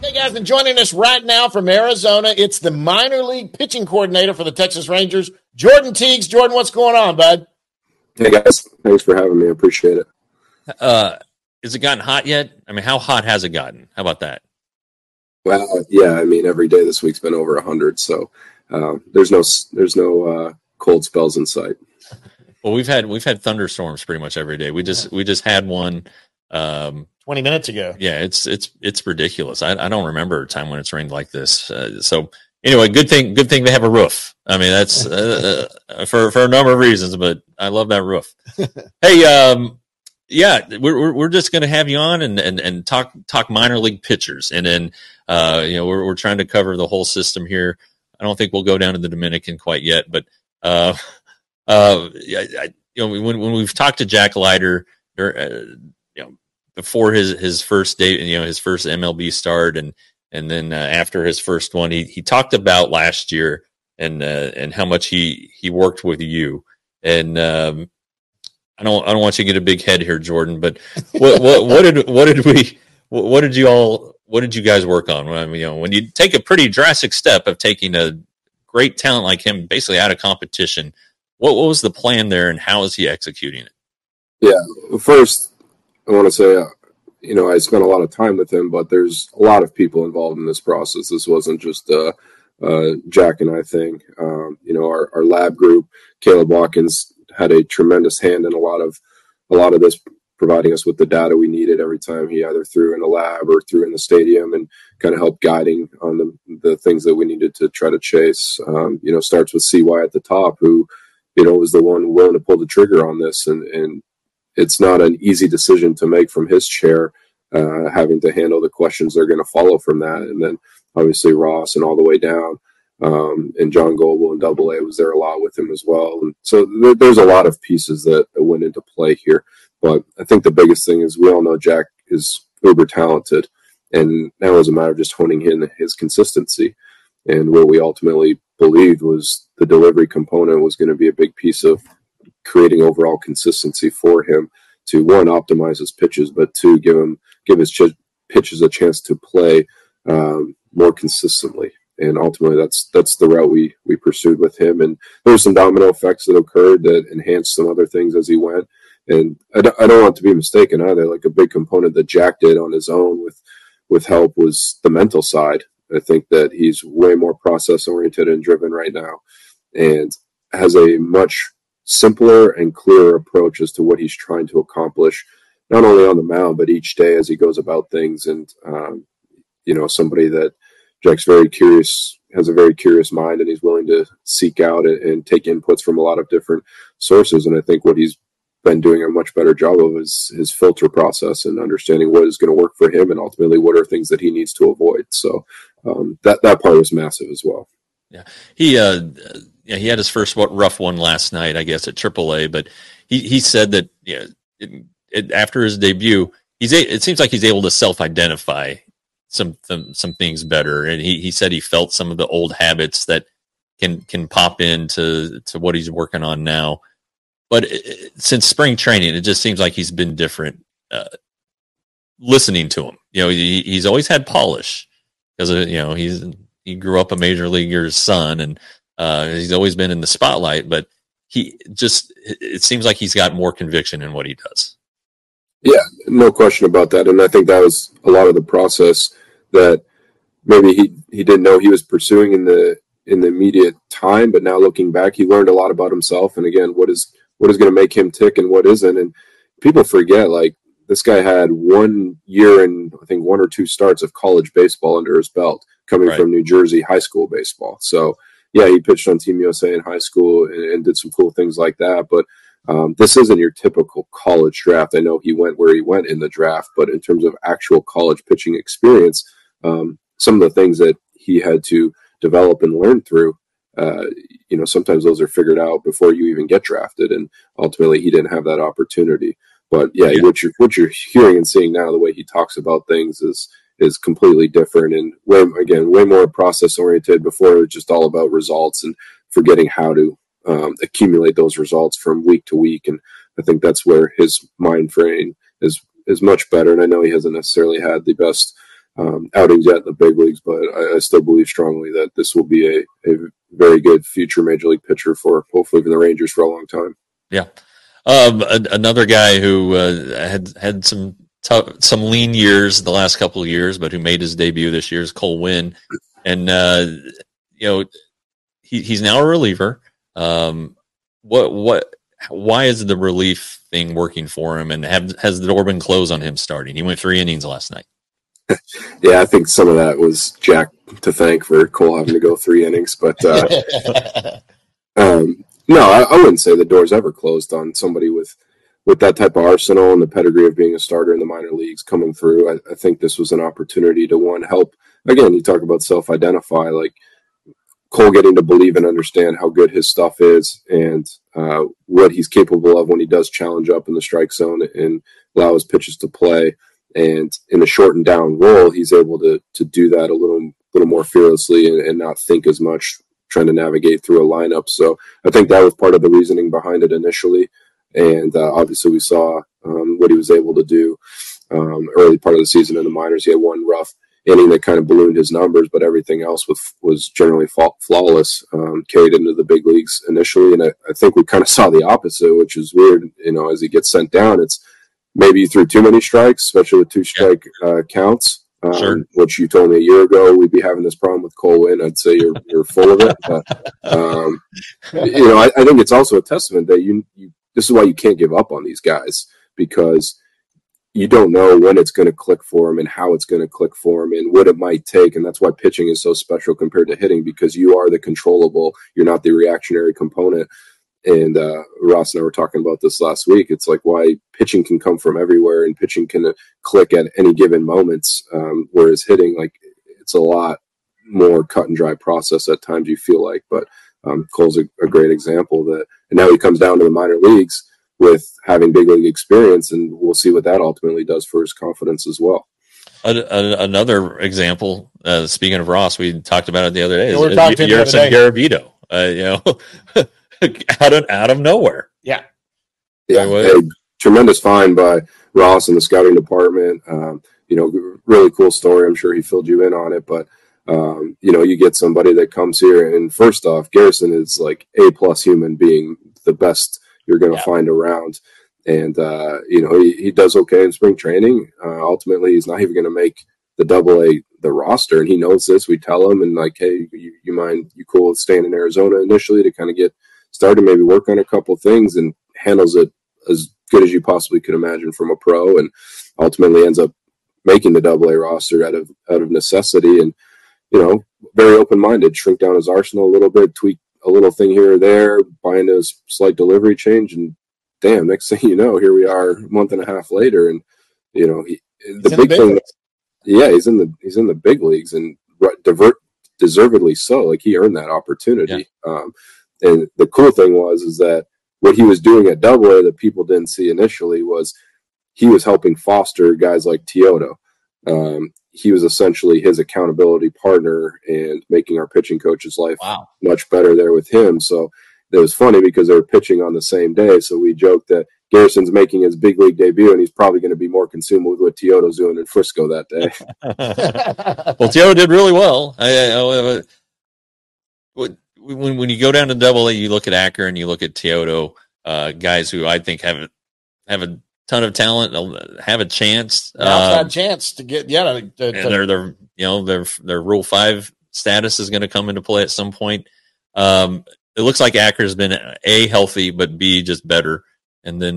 Hey guys, and joining us right now from Arizona, it's the minor league pitching coordinator for the Texas Rangers, Jordan Teagues. Jordan, what's going on, bud? Hey guys, thanks for having me. I appreciate it. Has it gotten hot yet? I mean, how hot has it gotten? How about that? Well, yeah, I mean, every day this week's been over 100, so there's no cold spells in sight. Well, we've had thunderstorms pretty much every day. We just had one 20 minutes ago. Yeah, it's ridiculous. I don't remember a time when it's rained like this. So anyway, good thing they have a roof. I mean, that's for a number of reasons, but I love that roof. Hey, yeah, we're just going to have you on and talk minor league pitchers, and then we're trying to cover the whole system here. I don't think we'll go down to the Dominican quite yet, but when we've talked to Jack Leiter, before his first day, his first MLB start, and then after his first one, he talked about last year and how much he worked with you. And I don't want you to get a big head here, Jordan, but what did you guys work on? I mean, when you take a pretty drastic step of taking a great talent like him basically out of competition, what was the plan there, and how is he executing it? Yeah, first, I want to say, I spent a lot of time with him, but there's a lot of people involved in this process. This wasn't just Jack and I thing. Our lab group, Caleb Watkins, had a tremendous hand in a lot of this, providing us with the data we needed every time he either threw in the lab or threw in the stadium, and kind of helped guiding on the things that we needed to try to chase. Starts with CY at the top, who, was the one willing to pull the trigger on this, and it's not an easy decision to make from his chair, having to handle the questions that are going to follow from that. And then obviously Ross and all the way down, and John Goble and AA was there a lot with him as well. And so there's a lot of pieces that went into play here. But I think the biggest thing is we all know Jack is uber talented, and now it's a matter of just honing in his consistency. And what we ultimately believed was the delivery component was going to be a big piece of creating overall consistency for him to, one, optimize his pitches, but two, give his pitches a chance to play more consistently. And ultimately, that's the route we pursued with him. And there were some domino effects that occurred that enhanced some other things as he went. And I don't want to be mistaken either. Like, a big component that Jack did on his own with help was the mental side. I think that he's way more process oriented and driven right now, and has a much simpler and clearer approach as to what he's trying to accomplish, not only on the mound, but each day as he goes about things. And, somebody that Jack's very curious, has a very curious mind, and he's willing to seek out and take inputs from a lot of different sources. And I think what he's been doing a much better job of is his filter process and understanding what is going to work for him, and ultimately what are things that he needs to avoid. So that part was massive as well. Yeah. He had his first rough one last night, I guess, at AAA, but he said that after his debut, it seems like he's able to self-identify some things better, and he said he felt some of the old habits that can pop into what he's working on now. But since spring training, it just seems like he's been different. Listening to him, he's always had polish because he grew up a major leaguer's son, and he's always been in the spotlight. But it seems like he's got more conviction in what he does. Yeah, no question about that. And I think that was a lot of the process that maybe he didn't know he was pursuing in the immediate time, but now looking back, he learned a lot about himself. And again, what is going to make him tick and what isn't. And people forget, like, this guy had 1 year and I think 1 or 2 starts of college baseball under his belt, coming from New Jersey high school baseball. So yeah, he pitched on Team USA in high school and did some cool things like that. But this isn't your typical college draft. I know he went where he went in the draft, but in terms of actual college pitching experience, some of the things that he had to develop and learn through, sometimes those are figured out before you even get drafted, and ultimately he didn't have that opportunity. But yeah. What you're hearing and seeing now, the way he talks about things is completely different, and way more process oriented. Before, it was just all about results and forgetting how to accumulate those results from week to week. And I think that's where his mind frame is much better. And I know he hasn't necessarily had the best outings yet in the big leagues, but I still believe strongly that this will be a very good future major league pitcher for hopefully for the Rangers for a long time. Yeah. Another guy who had some lean years the last couple of years, but who made his debut this year is Cole Winn. And, he's now a reliever. Why is the relief thing working for him? And has the door been closed on him starting? He went 3 innings last night. Yeah, I think some of that was Jack to thank for Cole having to go 3 innings. But no, I wouldn't say the door's ever closed on somebody with that type of arsenal and the pedigree of being a starter in the minor leagues coming through. I think this was an opportunity to help. Again, you talk about self-identify, like Cole getting to believe and understand how good his stuff is and what he's capable of when he does challenge up in the strike zone and allow his pitches to play. And in the shortened down role, he's able to do that a little more fearlessly and not think as much trying to navigate through a lineup. So I think that was part of the reasoning behind it initially. And obviously we saw what he was able to do early part of the season in the minors. He had one rough inning that kind of ballooned his numbers, but everything else was generally flawless, carried into the big leagues initially. And I think we kind of saw the opposite, which is weird. As he gets sent down, it's maybe you threw too many strikes, especially with 2-strike counts. Sure. Which you told me a year ago we'd be having this problem with Cole Winn. I'd say you're full of it. But, I think it's also a testament that this is why you can't give up on these guys, because you don't know when it's going to click for them and how it's going to click for them and what it might take. And that's why pitching is so special compared to hitting, because you are the controllable. You're not the reactionary component. And Ross and I were talking about this last week. It's like why pitching can come from everywhere and pitching can click at any given moments, whereas hitting, like, it's a lot more cut and dry process at times, you feel like. But Cole's a great example and now he comes down to the minor leagues with having big league experience, and we'll see what that ultimately does for his confidence as well. Another example, speaking of Ross, we talked about it the other day. Yeah, we were talking to him the other day. Garavito, out of nowhere. Yeah. Tremendous find by Ross and the scouting department. Really cool story. I'm sure he filled you in on it, but you get somebody that comes here, and first off, Garrison is like A+ human being, the best you're going to find around. And, he does okay in spring training. Ultimately, he's not even going to make the the roster, and he knows this. We tell him, and like, hey, you cool with staying in Arizona initially to kind of get started, maybe work on a couple things, and handles it as good as you possibly could imagine from a pro, and ultimately ends up making the AA roster out of necessity. And, very open-minded, shrink down his arsenal a little bit, tweak a little thing here or there, buying a slight delivery change, and damn, next thing you know, here we are a month and a half later, and he's in the big leagues, and deservedly so. Like, he earned that opportunity. Yeah. And the cool thing is that what he was doing at AA that people didn't see initially was he was helping foster guys like Teodo. He was essentially his accountability partner and making our pitching coach's life much better there with him. So it was funny because they were pitching on the same day. So we joked that Garrison's making his big league debut, and he's probably going to be more consumed with what Teodo's doing in Frisco that day. Well, Teodo did really well. When you go down to AA, you look at Acker and you look at Teodo, guys who I think have a ton of talent, have a chance, outside chance to get and their Rule 5 status is going to come into play at some point. It looks like Acker's been A, healthy, but B, just better, and then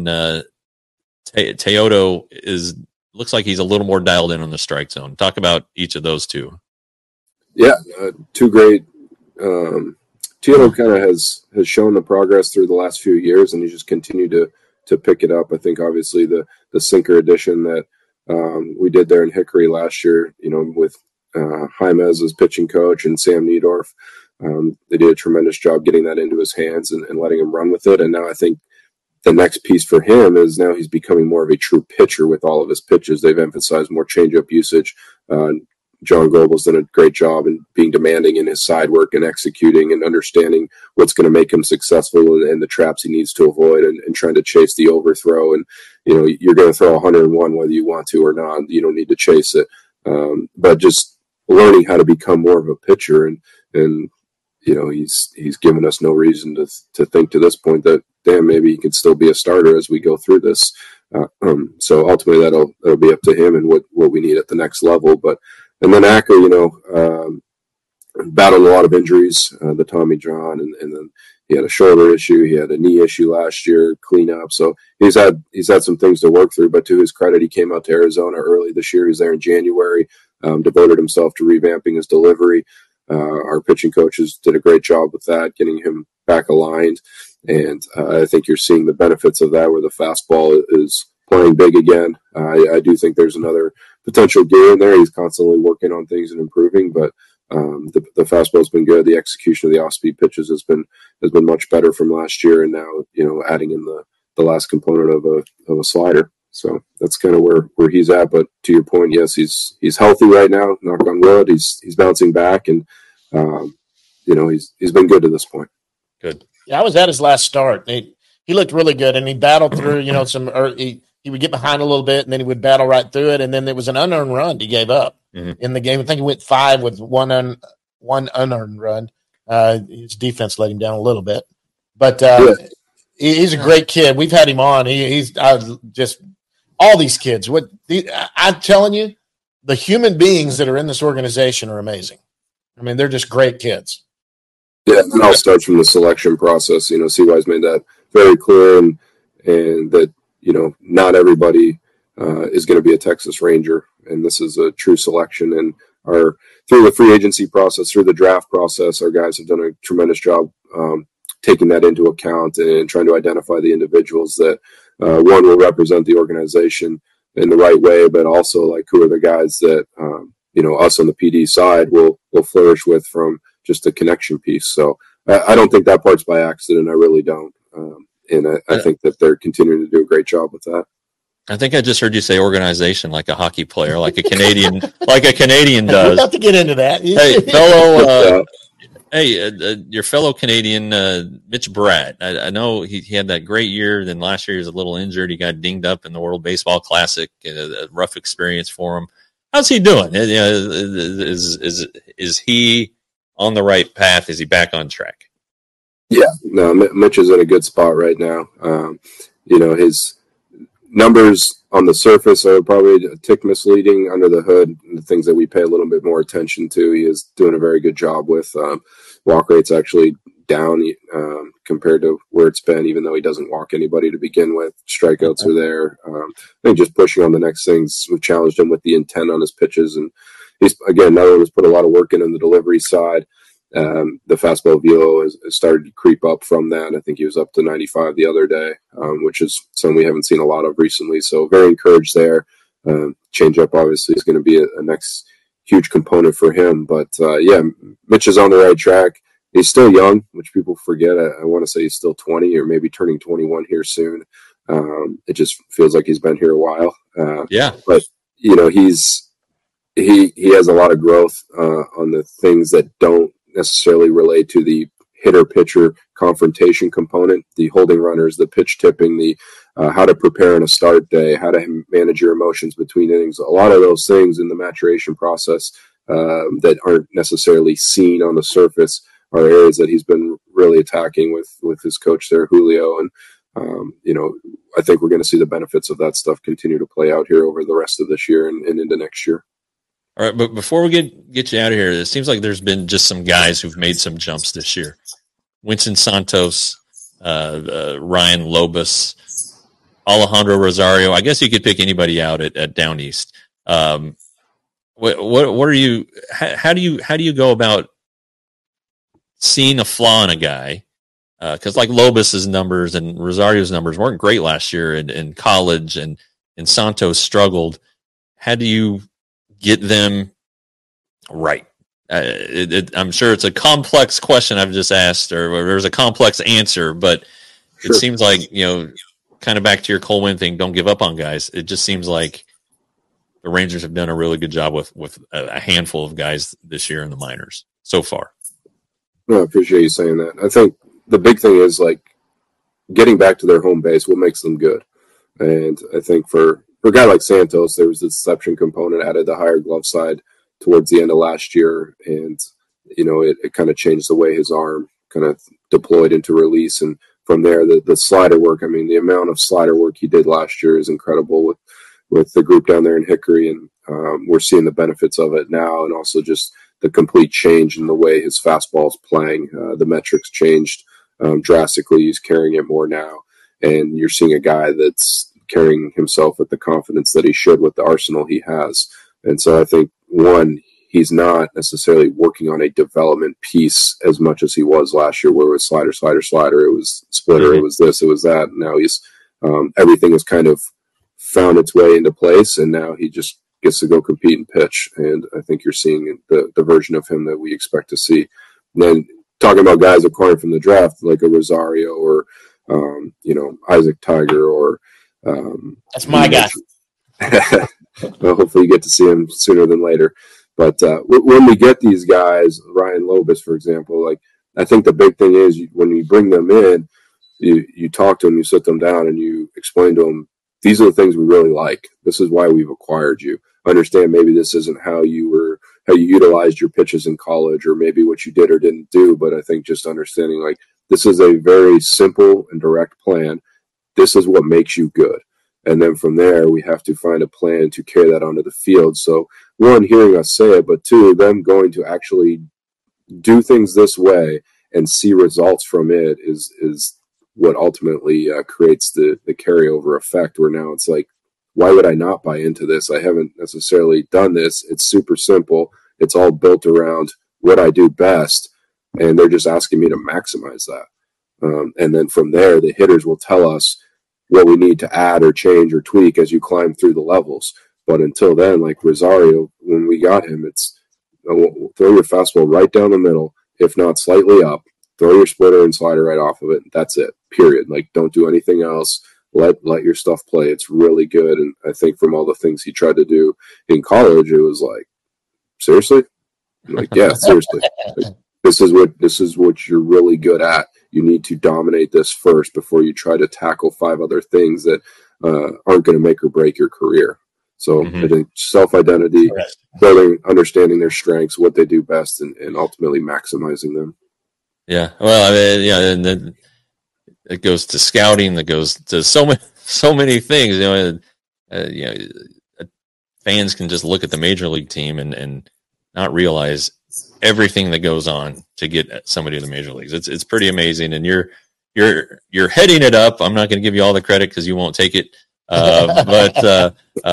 Teodo looks like he's a little more dialed in on the strike zone. Talk about each of those two. Yeah, two great. Teodo kind of has shown the progress through the last few years, and he's just continued to pick it up. I think obviously the sinker edition that we did there in Hickory last year, with Jaimez as pitching coach and Sam Niedorf, they did a tremendous job getting that into his hands and letting him run with it. And now I think the next piece for him is now he's becoming more of a true pitcher with all of his pitches. They've emphasized more changeup usage. John Goebel's done a great job in being demanding in his side work and executing and understanding what's going to make him successful and the traps he needs to avoid and trying to chase the overthrow. And, you're going to throw 101 whether you want to or not. You don't need to chase it. but just learning how to become more of a pitcher. And he's given us no reason to think to this point that, damn, maybe he could still be a starter as we go through this. So ultimately that'll be up to him and what we need at the next level. And then Acker, battled a lot of injuries, the Tommy John, and then he had a shoulder issue. He had a knee issue last year, cleanup. So he's had some things to work through, but to his credit, he came out to Arizona early this year. He was there in January, devoted himself to revamping his delivery. Our pitching coaches did a great job with that, getting him back aligned. And I think you're seeing the benefits of that, where the fastball is playing big again. I do think there's another potential gear in there. He's constantly working on things and improving, but the fastball's been good. The execution of the off-speed pitches has been much better from last year, and now adding in the last component of a slider. So that's kind of where he's at. But to your point, yes, he's healthy right now. Knock on wood. He's bouncing back, and he's been good to this point. Good. Yeah, I was at his last start. He looked really good, and he battled through. He would get behind a little bit, and then he would battle right through it. And then there was an unearned run he gave up in the game. I think he went 5 with one unearned run. His defense let him down a little bit, but he's a great kid. We've had him on. He's just all these kids. I'm telling you, the human beings that are in this organization are amazing. I mean, they're just great kids. Yeah, it all starts from the selection process. CY's made that very clear, and that not everybody is going to be a Texas Ranger, and this is a true selection. And through the free agency process, through the draft process, our guys have done a tremendous job taking that into account and trying to identify the individuals that one will represent the organization in the right way, but also like who are the guys that us on the PD side will flourish with from just a connection piece. So I don't think that part's by accident. I really don't. And I think that they're continuing to do a great job with that. I think I just heard you say organization, like a hockey player, like a Canadian, does. We'll have to get into that. Your fellow Canadian, Mitch Bratt. I know he had that great year. Then last year he was a little injured. He got dinged up in the World Baseball Classic. A rough experience for him. How's he doing? Is he on the right path? Is he back on track? Yeah, no, Mitch is in a good spot right now. His numbers on the surface are probably a tick misleading. Under the hood, the things that we pay a little bit more attention to, he is doing a very good job with. Walk rate's actually down compared to where it's been, even though he doesn't walk anybody to begin with. Strikeouts are there. I think just pushing on the next things. We've challenged him with the intent on his pitches, and he's, again, now has put a lot of work in on the delivery side. The fastball velo has started to creep up from that. I think he was up to 95 the other day, which is something we haven't seen a lot of recently. So very encouraged there. Changeup obviously is going to be a next huge component for him. But Mitch is on the right track. He's still young, which people forget. I want to say he's still 20 or maybe turning 21 here soon. It just feels like he's been here a while. But he has a lot of growth on the things that don't necessarily relate to the hitter-pitcher confrontation component, the holding runners, the pitch tipping, the how to prepare on a start day, how to manage your emotions between innings. A lot of those things in the maturation process that aren't necessarily seen on the surface are areas that he's been really attacking with his coach there, Julio. And, I think we're going to see the benefits of that stuff continue to play out here over the rest of this year and into next year. All right, but before we get you out of here, it seems like there's been just some guys who've made some jumps this year. Winston Santos, Ryan Lobus, Alejandro Rosario. I guess you could pick anybody out at Down East. What are you? How do you go about seeing a flaw in a guy? Because like Lobus's numbers and Rosario's numbers weren't great last year in college, and Santos struggled. How do you get them right? I'm sure it's a complex question I've just asked, or there's a complex answer, but It seems like, kind of back to your Cole Winn thing, don't give up on guys. It just seems like the Rangers have done a really good job with a handful of guys this year in the minors so far. No, I appreciate you saying that. I think the big thing is like getting back to their home base, what makes them good. And I think for for a guy like Santos, there was the deception component added, the higher glove side towards the end of last year. And, it kind of changed the way his arm kind of deployed into release. And from there, the slider work, I mean, the amount of slider work he did last year is incredible with the group down there in Hickory. And we're seeing the benefits of it now. And also just the complete change in the way his fastball is playing. The metrics changed drastically. He's carrying it more now. And you're seeing a guy that's carrying himself with the confidence that he should with the arsenal he has. And so I think, one, he's not necessarily working on a development piece as much as he was last year, where it was slider, slider, slider. It was splitter. It was this, it was that. And now he's everything has kind of found its way into place, and now he just gets to go compete and pitch. And I think you're seeing the version of him that we expect to see. And then talking about guys acquired from the draft, like a Rosario or Isaac Tiger or that's my guy. Well, hopefully you get to see him sooner than later. But when we get these guys, Ryan Lobus, for example, like I think the big thing is when you bring them in, you talk to them, you sit them down, and you explain to them, these are the things we really like. This is why we've acquired you. Understand maybe this isn't how you utilized your pitches in college, or maybe what you did or didn't do. But I think just understanding like this is a very simple and direct plan. This is what makes you good. And then from there, we have to find a plan to carry that onto the field. So one, hearing us say it, but two, them going to actually do things this way and see results from it is what ultimately creates the carryover effect, where now it's like, why would I not buy into this? I haven't necessarily done this. It's super simple. It's all built around what I do best, and they're just asking me to maximize that. And then from there, the hitters will tell us what we need to add or change or tweak as you climb through the levels. But until then, like Rosario, when we got him, it's throw your fastball right down the middle, if not slightly up, throw your splitter and slider right off of it. That's it, period. Like, don't do anything else. Let your stuff play. It's really good. And I think from all the things he tried to do in college, it was like, seriously? I'm like, yeah, seriously. Like, this is what you're really good at. You need to dominate this first before you try to tackle 5 other things that aren't going to make or break your career. So I think self-identity, building, understanding their strengths, what they do best, and ultimately maximizing them. Yeah. Well, I mean, yeah, and then it goes to scouting. That goes to so many things. Fans can just look at the major league team and not realize everything that goes on to get somebody to the major leagues. It's pretty amazing, and you're heading it up. I'm not going to give you all the credit because you won't take it, but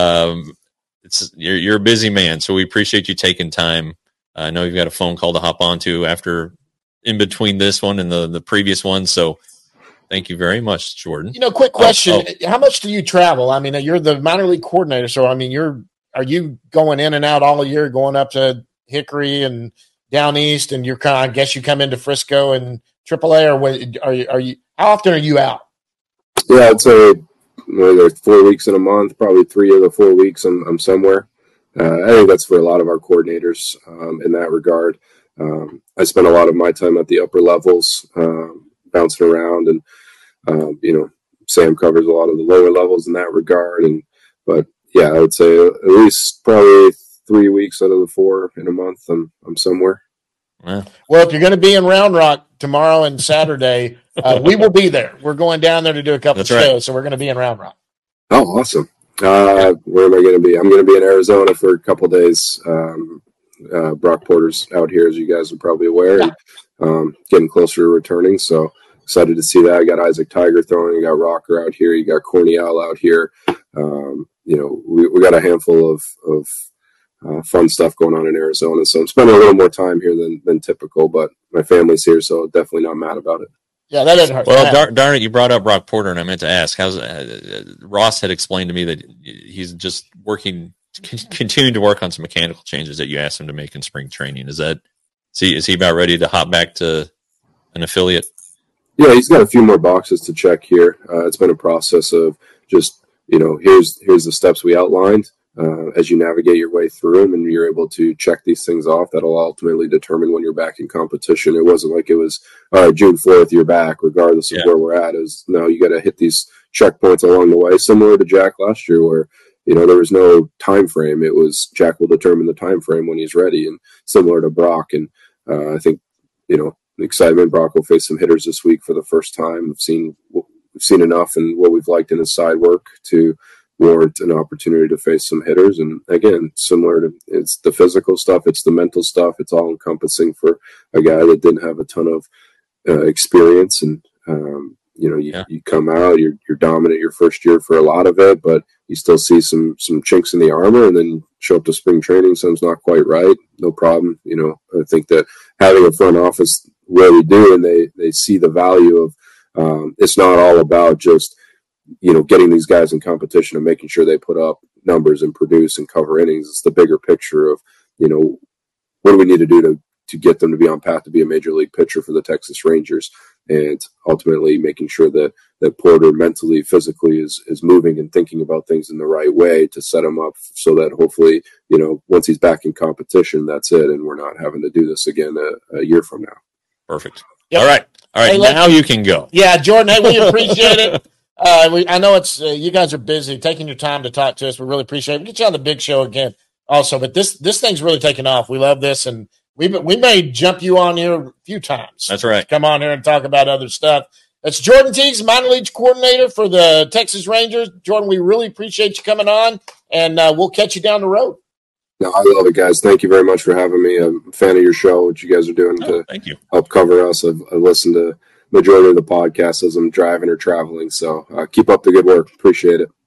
you're a busy man, so we appreciate you taking time. I know you've got a phone call to hop onto after in between this one and the previous one, so thank you very much, Jordan. Quick question: how much do you travel? I mean, you're the minor league coordinator, so I mean, are you going in and out all year, going up to Hickory and down east, and you're I guess you come into Frisco and AAA, or what, are you? How often are you out? Yeah, I'd say there's 4 weeks in a month. Probably 3 of the 4 weeks I'm somewhere. I think that's for a lot of our coordinators in that regard. I spend a lot of my time at the upper levels, bouncing around, and Sam covers a lot of the lower levels in that regard. But yeah, I would say at least probably 3 weeks out of the 4 in a month, I'm somewhere. Wow. Well, if you're going to be in Round Rock tomorrow and Saturday, we will be there. We're going down there to do a couple of shows, so we're going to be in Round Rock. Oh, awesome. Where am I going to be? I'm going to be in Arizona for a couple of days. Brock Porter's out here, as you guys are probably aware, and, getting closer to returning. So excited to see that. I got Isaac Tiger throwing. You got Rocker out here. You got Corniel out here. We got a handful of fun stuff going on in Arizona. So I'm spending a little more time here than typical, but my family's here, so definitely not mad about it. Yeah, that doesn't hurt. Well, darn it, you brought up Brock Porter, and I meant to ask. Ross had explained to me that he's just continuing to work on some mechanical changes that you asked him to make in spring training. Is he about ready to hop back to an affiliate? Yeah, he's got a few more boxes to check here. It's been a process of just, here's the steps we outlined. As you navigate your way through them and you're able to check these things off, that'll ultimately determine when you're back in competition. It wasn't like it was, all right, June 4th, you're back, regardless of where we're at. No, you got to hit these checkpoints along the way, similar to Jack last year, where there was no time frame. It was Jack will determine the time frame when he's ready, and similar to Brock. And I think, the excitement, Brock will face some hitters this week for the first time. We've seen enough and what we've liked in his side work to warrant an opportunity to face some hitters. And again, similar to, it's the physical stuff, it's the mental stuff, it's all encompassing for a guy that didn't have a ton of experience. And you come out, you're dominant your first year for a lot of it, but you still see some chinks in the armor, and then show up to spring training, something's not quite right, no problem. I think that having a front office really do, and they see the value of it's not all about just getting these guys in competition and making sure they put up numbers and produce and cover innings. It's the bigger picture of what do we need to do to get them to be on path to be a major league pitcher for the Texas Rangers, and ultimately making sure that Porter mentally, physically is moving and thinking about things in the right way to set him up so that hopefully, once he's back in competition, that's it. And we're not having to do this again a year from now. Perfect. Yep. All right. Hey, now you can go. Yeah, Jordan, hey, we appreciate it. I know it's you guys are busy taking your time to talk to us. We really appreciate it. We'll get you on the big show again also, but this thing's really taking off. We love this, and we may jump you on here a few times. That's right. Come on here and talk about other stuff. That's Jordan Teagues, minor league coordinator for the Texas Rangers. Jordan, we really appreciate you coming on, and we'll catch you down the road. No, I love it, guys. Thank you very much for having me. I'm a fan of your show, what you guys are doing to thank you. Help cover us. I've listened to majority of the podcast as I'm driving or traveling, so keep up the good work. Appreciate it.